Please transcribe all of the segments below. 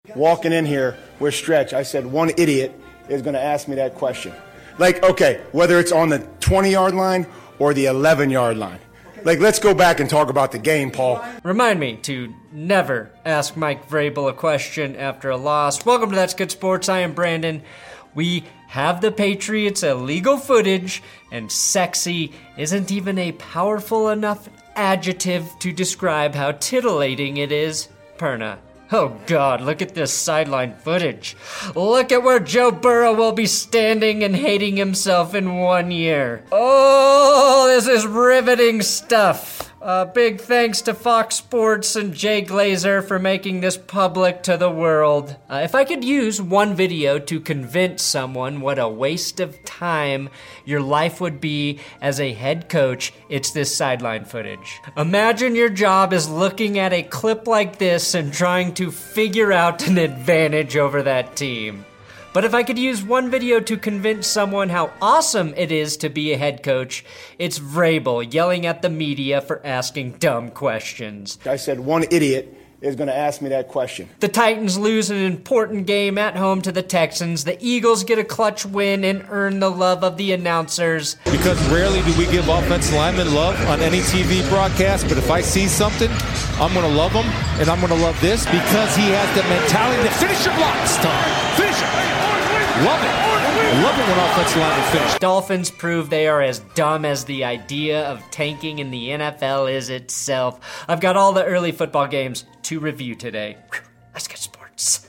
Walking in here with Stretch, I said one idiot is going to ask me that question. Like, okay, whether it's on the 20-yard line or the 11-yard line. Like, let's go back and talk about the game, Paul. Remind me to never ask Mike Vrabel a question after a loss. Welcome to That's Good Sports. I am Brandon. We have the Patriots' illegal footage, and sexy isn't even a powerful enough adjective to describe how titillating it is. Perna. Oh God, look at this sideline footage. Look at where Joe Burrow will be standing and hating himself in 1 year. Oh, this is riveting stuff. Big thanks to Fox Sports and Jay Glazer for making this public to the world. If I could use one video to convince someone what a waste of time your life would be as a head coach, it's this sideline footage. Imagine your job is looking at a clip like this and trying to figure out an advantage over that team. But if I could use one video to convince someone how awesome it is to be a head coach, it's Vrabel yelling at the media for asking dumb questions. I said one idiot is going to ask me that question. The Titans lose an important game at home to the Texans. The Eagles get a clutch win and earn the love of the announcers. Because rarely do we give offensive linemen love on any TV broadcast, but if I see something, I'm going to love him, and I'm going to love this because he has the mentality to finish your blocks, Tom. Finish it. Love it. Love it when offensive linemen finish. Dolphins prove they are as dumb as the idea of tanking in the NFL is itself. I've got all the early football games to review today. Let's get sports.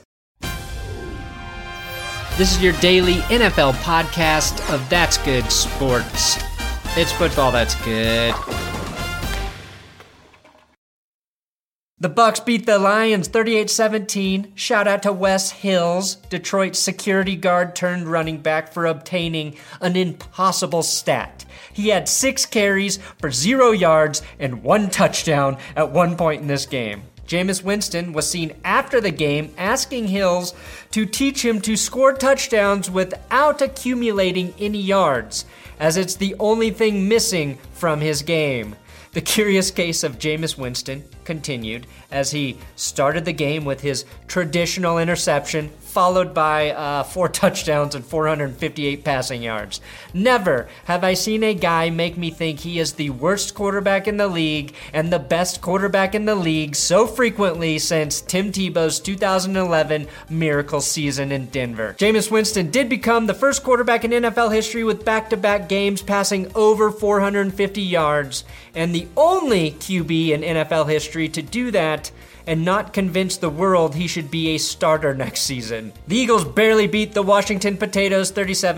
This is your daily NFL podcast of That's Good Sports. It's football that's good. The Bucs beat the Lions 38-17. Shout out to Wes Hills, Detroit's security guard turned running back, for obtaining an impossible stat. He had 6 carries for 0 yards and 1 touchdown at one point in this game. Jameis Winston was seen after the game asking Hills to teach him to score touchdowns without accumulating any yards, as it's the only thing missing from his game. The curious case of Jameis Winston continued as he started the game with his traditional interception, followed by 4 touchdowns and 458 passing yards. Never have I seen a guy make me think he is the worst quarterback in the league and the best quarterback in the league so frequently since Tim Tebow's 2011 miracle season in Denver. Jameis Winston did become the first quarterback in NFL history with back-to-back games passing over 450 yards, and the only QB in NFL history to do that and not convince the world he should be a starter next season. The Eagles barely beat the Washington Potatoes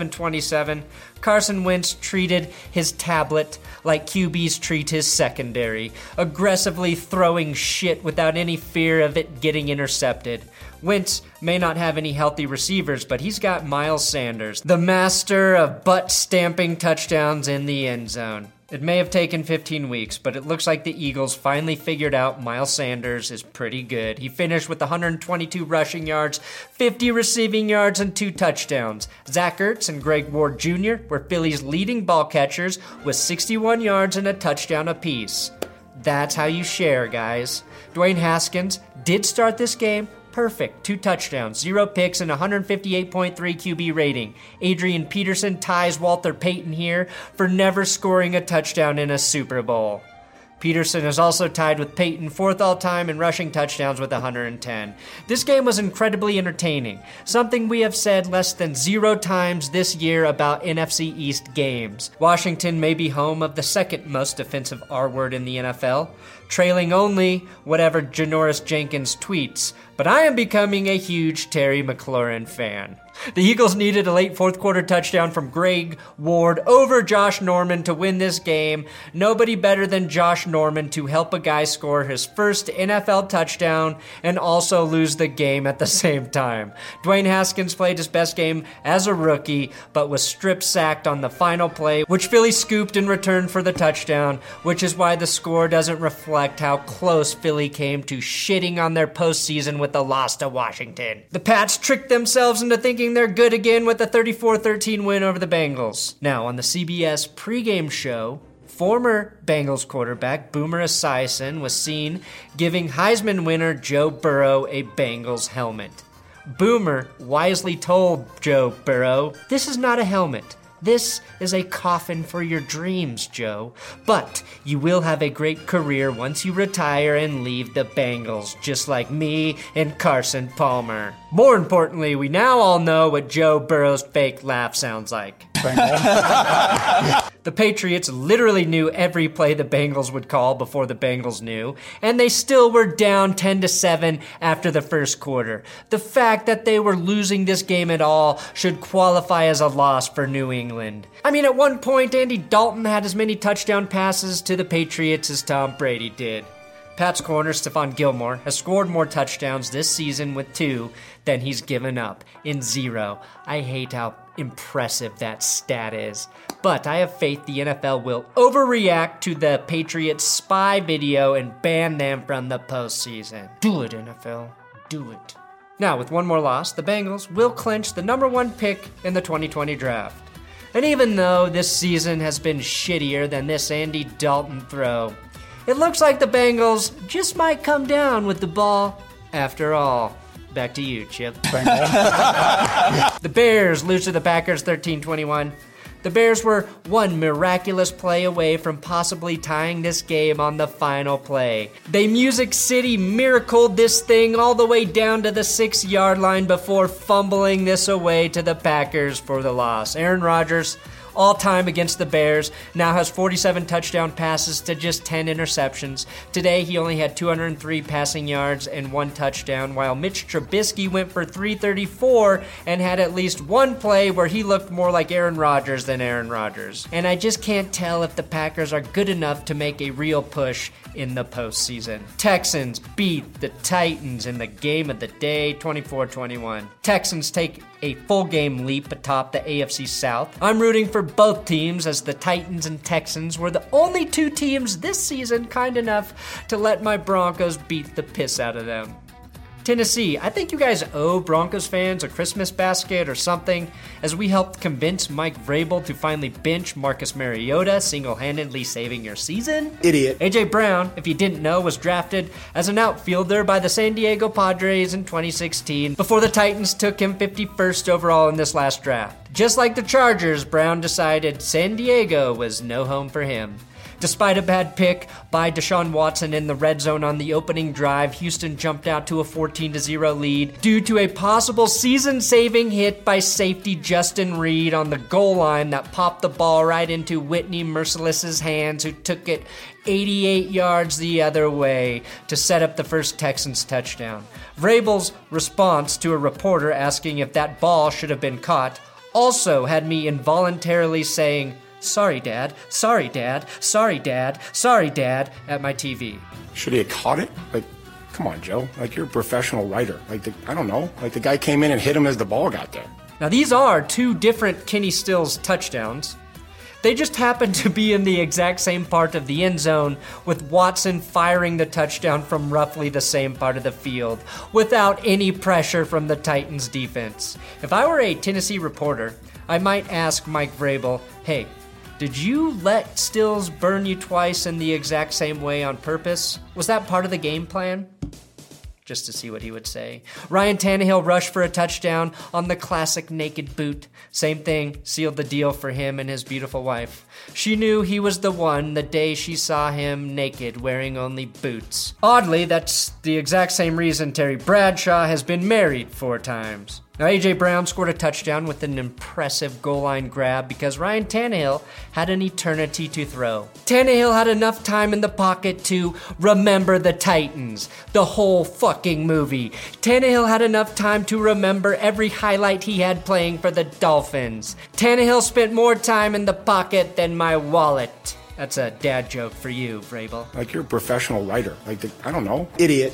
37-27. Carson Wentz treated his tablet like QBs treat his secondary, aggressively throwing shit without any fear of it getting intercepted. Wentz may not have any healthy receivers, but he's got Miles Sanders, the master of butt-stamping touchdowns in the end zone. It may have taken 15 weeks, but it looks like the Eagles finally figured out Miles Sanders is pretty good. He finished with 122 rushing yards, 50 receiving yards, and 2 touchdowns. Zach Ertz and Greg Ward Jr. were Philly's leading ball catchers with 61 yards and a touchdown apiece. That's how you share, guys. Dwayne Haskins did start this game perfect. 2 touchdowns, 0 picks, and 158.3 QB rating. Adrian Peterson ties Walter Payton here for never scoring a touchdown in a Super Bowl. Peterson is also tied with Peyton, 4th all-time in rushing touchdowns with 110. This game was incredibly entertaining, something we have said less than 0 times this year about NFC East games. Washington may be home of the second most offensive R-word in the NFL, trailing only whatever Janoris Jenkins tweets, but I am becoming a huge Terry McLaurin fan. The Eagles needed a late 4th quarter touchdown from Greg Ward over Josh Norman to win this game. Nobody better than Josh Norman to help a guy score his first NFL touchdown and also lose the game at the same time. Dwayne Haskins played his best game as a rookie, but was strip-sacked on the final play, which Philly scooped in return for the touchdown, which is why the score doesn't reflect how close Philly came to shitting on their postseason with the loss to Washington. The Pats tricked themselves into thinking they're good again with a 34-13 win over the Bengals. Now, on the CBS pregame show, former Bengals quarterback Boomer Esiason was seen giving Heisman winner Joe Burrow a Bengals helmet. Boomer wisely told Joe Burrow, "This is not a helmet. This is a coffin for your dreams, Joe. But you will have a great career once you retire and leave the Bengals, just like me and Carson Palmer." More importantly, we now all know what Joe Burrow's fake laugh sounds like. The Patriots literally knew every play the Bengals would call before the Bengals knew, and they still were down 10-7 after the first quarter. The fact that they were losing this game at all should qualify as a loss for New England. I mean, at one point, Andy Dalton had as many touchdown passes to the Patriots as Tom Brady did. Pat's corner, Stephon Gilmore, has scored more touchdowns this season with 2 than he's given up in 0. I hate how impressive that stat is. But I have faith the NFL will overreact to the Patriots spy video and ban them from the postseason. Do it, NFL. Do it. Now, with one more loss, the Bengals will clinch the number 1 pick in the 2020 draft. And even though this season has been shittier than this Andy Dalton throw, it looks like the Bengals just might come down with the ball after all. Back to you, Chip. The Bears lose to the Packers 13-21. The Bears were one miraculous play away from possibly tying this game on the final play. They Music City miracled this thing all the way down to the 6-yard line before fumbling this away to the Packers for the loss. Aaron Rodgers, all-time against the Bears, now has 47 touchdown passes to just 10 interceptions. Today, he only had 203 passing yards and 1 touchdown, while Mitch Trubisky went for 334 and had at least 1 play where he looked more like Aaron Rodgers than Aaron Rodgers. And I just can't tell if the Packers are good enough to make a real push in the postseason. Texans beat the Titans in the game of the day, 24-21. Texans take a full game leap atop the AFC South. I'm rooting for both teams, as the Titans and Texans were the only 2 teams this season kind enough to let my Broncos beat the piss out of them. Tennessee, I think you guys owe Broncos fans a Christmas basket or something, as we helped convince Mike Vrabel to finally bench Marcus Mariota, single-handedly saving your season. Idiot. A.J. Brown, if you didn't know, was drafted as an outfielder by the San Diego Padres in 2016 before the Titans took him 51st overall in this last draft. Just like the Chargers, Brown decided San Diego was no home for him. Despite a bad pick by Deshaun Watson in the red zone on the opening drive, Houston jumped out to a 14-0 lead due to a possible season-saving hit by safety Justin Reed on the goal line that popped the ball right into Whitney Merciless's hands, who took it 88 yards the other way to set up the first Texans touchdown. Vrabel's response to a reporter asking if that ball should have been caught also had me involuntarily saying, "Sorry, Dad. Sorry, Dad. Sorry, Dad. Sorry, Dad," at my TV. Should he have caught it? Like, come on, Joe. Like, you're a professional writer. Like, I don't know. Like, the guy came in and hit him as the ball got there. Now, these are 2 different Kenny Stills touchdowns. They just happen to be in the exact same part of the end zone, with Watson firing the touchdown from roughly the same part of the field, without any pressure from the Titans defense. If I were a Tennessee reporter, I might ask Mike Vrabel, "Hey, did you let Stills burn you twice in the exact same way on purpose? Was that part of the game plan?" Just to see what he would say. Ryan Tannehill rushed for a touchdown on the classic naked boot. Same thing, sealed the deal for him and his beautiful wife. She knew he was the one the day she saw him naked, wearing only boots. Oddly, that's the exact same reason Terry Bradshaw has been married 4 times. Now, A.J. Brown scored a touchdown with an impressive goal line grab because Ryan Tannehill had an eternity to throw. Tannehill had enough time in the pocket to remember the Titans, the whole fucking movie. Tannehill had enough time to remember every highlight he had playing for the Dolphins. Tannehill spent more time in the pocket than my wallet. That's a dad joke for you, Vrabel. Like, you're a professional writer. Like, I don't know. Idiot.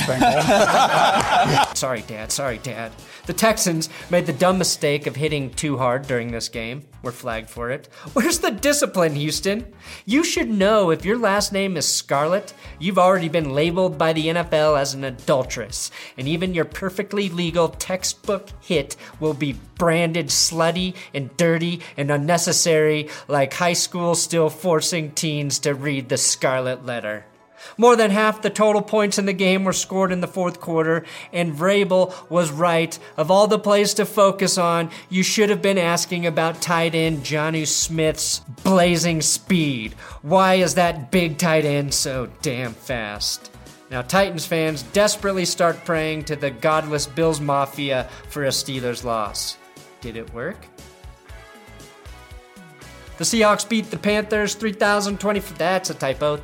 Sorry, Dad. Sorry, Dad. The Texans made the dumb mistake of hitting too hard during this game. We're flagged for it. Where's the discipline, Houston? You should know if your last name is Scarlett, you've already been labeled by the NFL as an adulteress. And even your perfectly legal textbook hit will be branded slutty and dirty and unnecessary, like high school still forcing teens to read the Scarlet Letter. More than half the total points in the game were scored in the fourth quarter, and Vrabel was right. Of all the plays to focus on, you should have been asking about tight end Jonnu Smith's blazing speed. Why is that big tight end so damn fast? Now, Titans fans desperately start praying to the godless Bills Mafia for a Steelers loss. Did it work? The Seahawks beat the Panthers 3,024. That's a typo.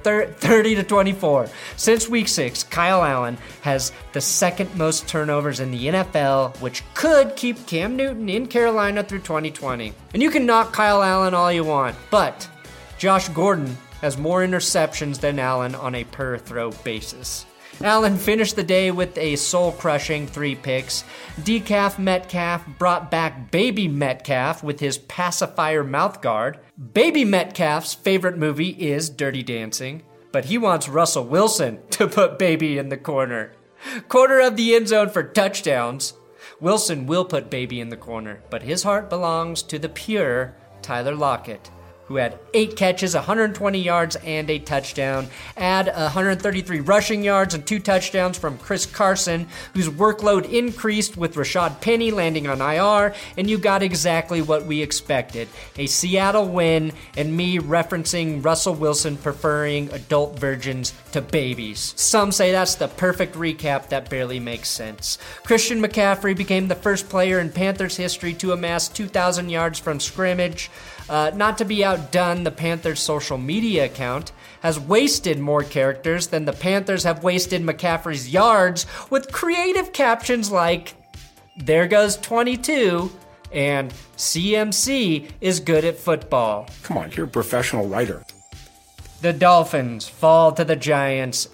30-24. Since week 6, Kyle Allen has the second most turnovers in the NFL, which could keep Cam Newton in Carolina through 2020. And you can knock Kyle Allen all you want, but Josh Gordon has more interceptions than Allen on a per-throw basis. Allen finished the day with a soul-crushing 3 picks. Decaf Metcalf brought back Baby Metcalf with his pacifier mouthguard. Baby Metcalf's favorite movie is Dirty Dancing, but he wants Russell Wilson to put Baby in the corner. Corner of the end zone for touchdowns. Wilson will put Baby in the corner, but his heart belongs to the pure Tyler Lockett, who had 8 catches, 120 yards, and a touchdown. Add 133 rushing yards and 2 touchdowns from Chris Carson, whose workload increased with Rashad Penny landing on IR, and you got exactly what we expected. A Seattle win, and me referencing Russell Wilson preferring adult virgins to babies. Some say that's the perfect recap that barely makes sense. Christian McCaffrey became the first player in Panthers history to amass 2,000 yards from scrimmage. Not to be outdone, the Panthers' social media account has wasted more characters than the Panthers have wasted McCaffrey's yards with creative captions like, "There goes 22," and "CMC is good at football." Come on, you're a professional writer. The Dolphins fall to the Giants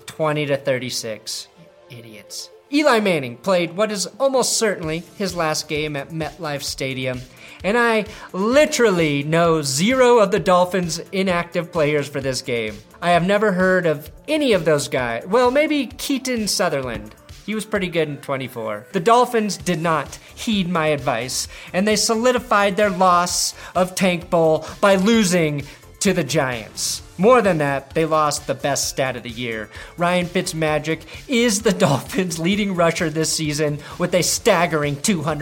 20-36. Idiots. Eli Manning played what is almost certainly his last game at MetLife Stadium, and I literally know 0 of the Dolphins' inactive players for this game. I have never heard of any of those guys. Well, maybe Keaton Sutherland. He was pretty good in 24. The Dolphins did not heed my advice, and they solidified their loss of Tank Bowl by losing to the Giants. More than that, they lost the best stat of the year. Ryan Fitzmagic is the Dolphins' leading rusher this season with a staggering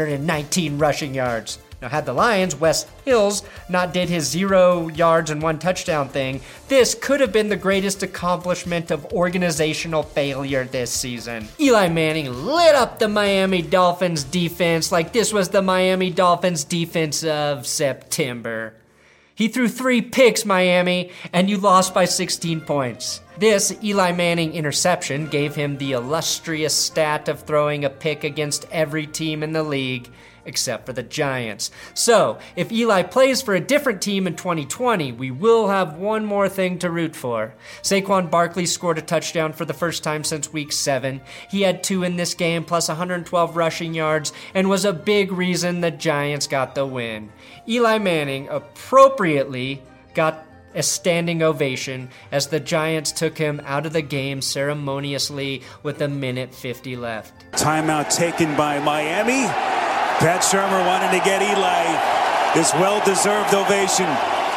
219 rushing yards. Now, had the Lions' Wes Hills not did his 0 yards and 1 touchdown thing, this could have been the greatest accomplishment of organizational failure this season. Eli Manning lit up the Miami Dolphins defense like this was the Miami Dolphins defense of September. He threw 3 picks, Miami, and you lost by 16 points. This Eli Manning interception gave him the illustrious stat of throwing a pick against every team in the league, except for the Giants. So, if Eli plays for a different team in 2020, we will have one more thing to root for. Saquon Barkley scored a touchdown for the first time since week 7. He had 2 in this game, plus 112 rushing yards, and was a big reason the Giants got the win. Eli Manning appropriately got a standing ovation as the Giants took him out of the game ceremoniously with 1:50 left. Timeout taken by Miami. Pat Shurmur wanted to get Eli this well-deserved ovation.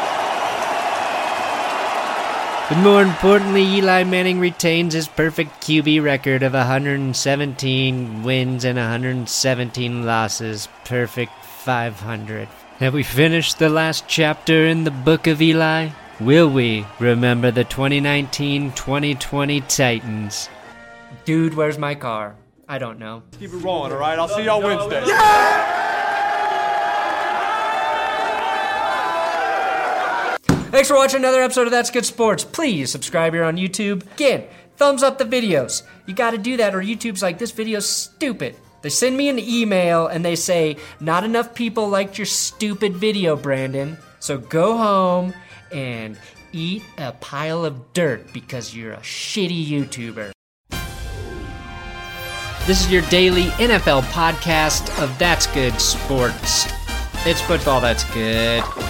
But more importantly, Eli Manning retains his perfect QB record of 117 wins and 117 losses. Perfect 500. Have we finished the last chapter in the book of Eli? Will we remember the 2019-2020 Titans? Dude, where's my car? I don't know. Keep it rolling, all right? I'll see y'all Wednesday. Thanks for watching another episode of That's Good Sports. Please subscribe here on YouTube. Again, thumbs up the videos. You gotta do that or YouTube's like, this video's stupid. They send me an email and they say, not enough people liked your stupid video, Brandon. So go home and eat a pile of dirt because you're a shitty YouTuber. This is your daily NFL podcast of That's Good Sports. It's football that's good.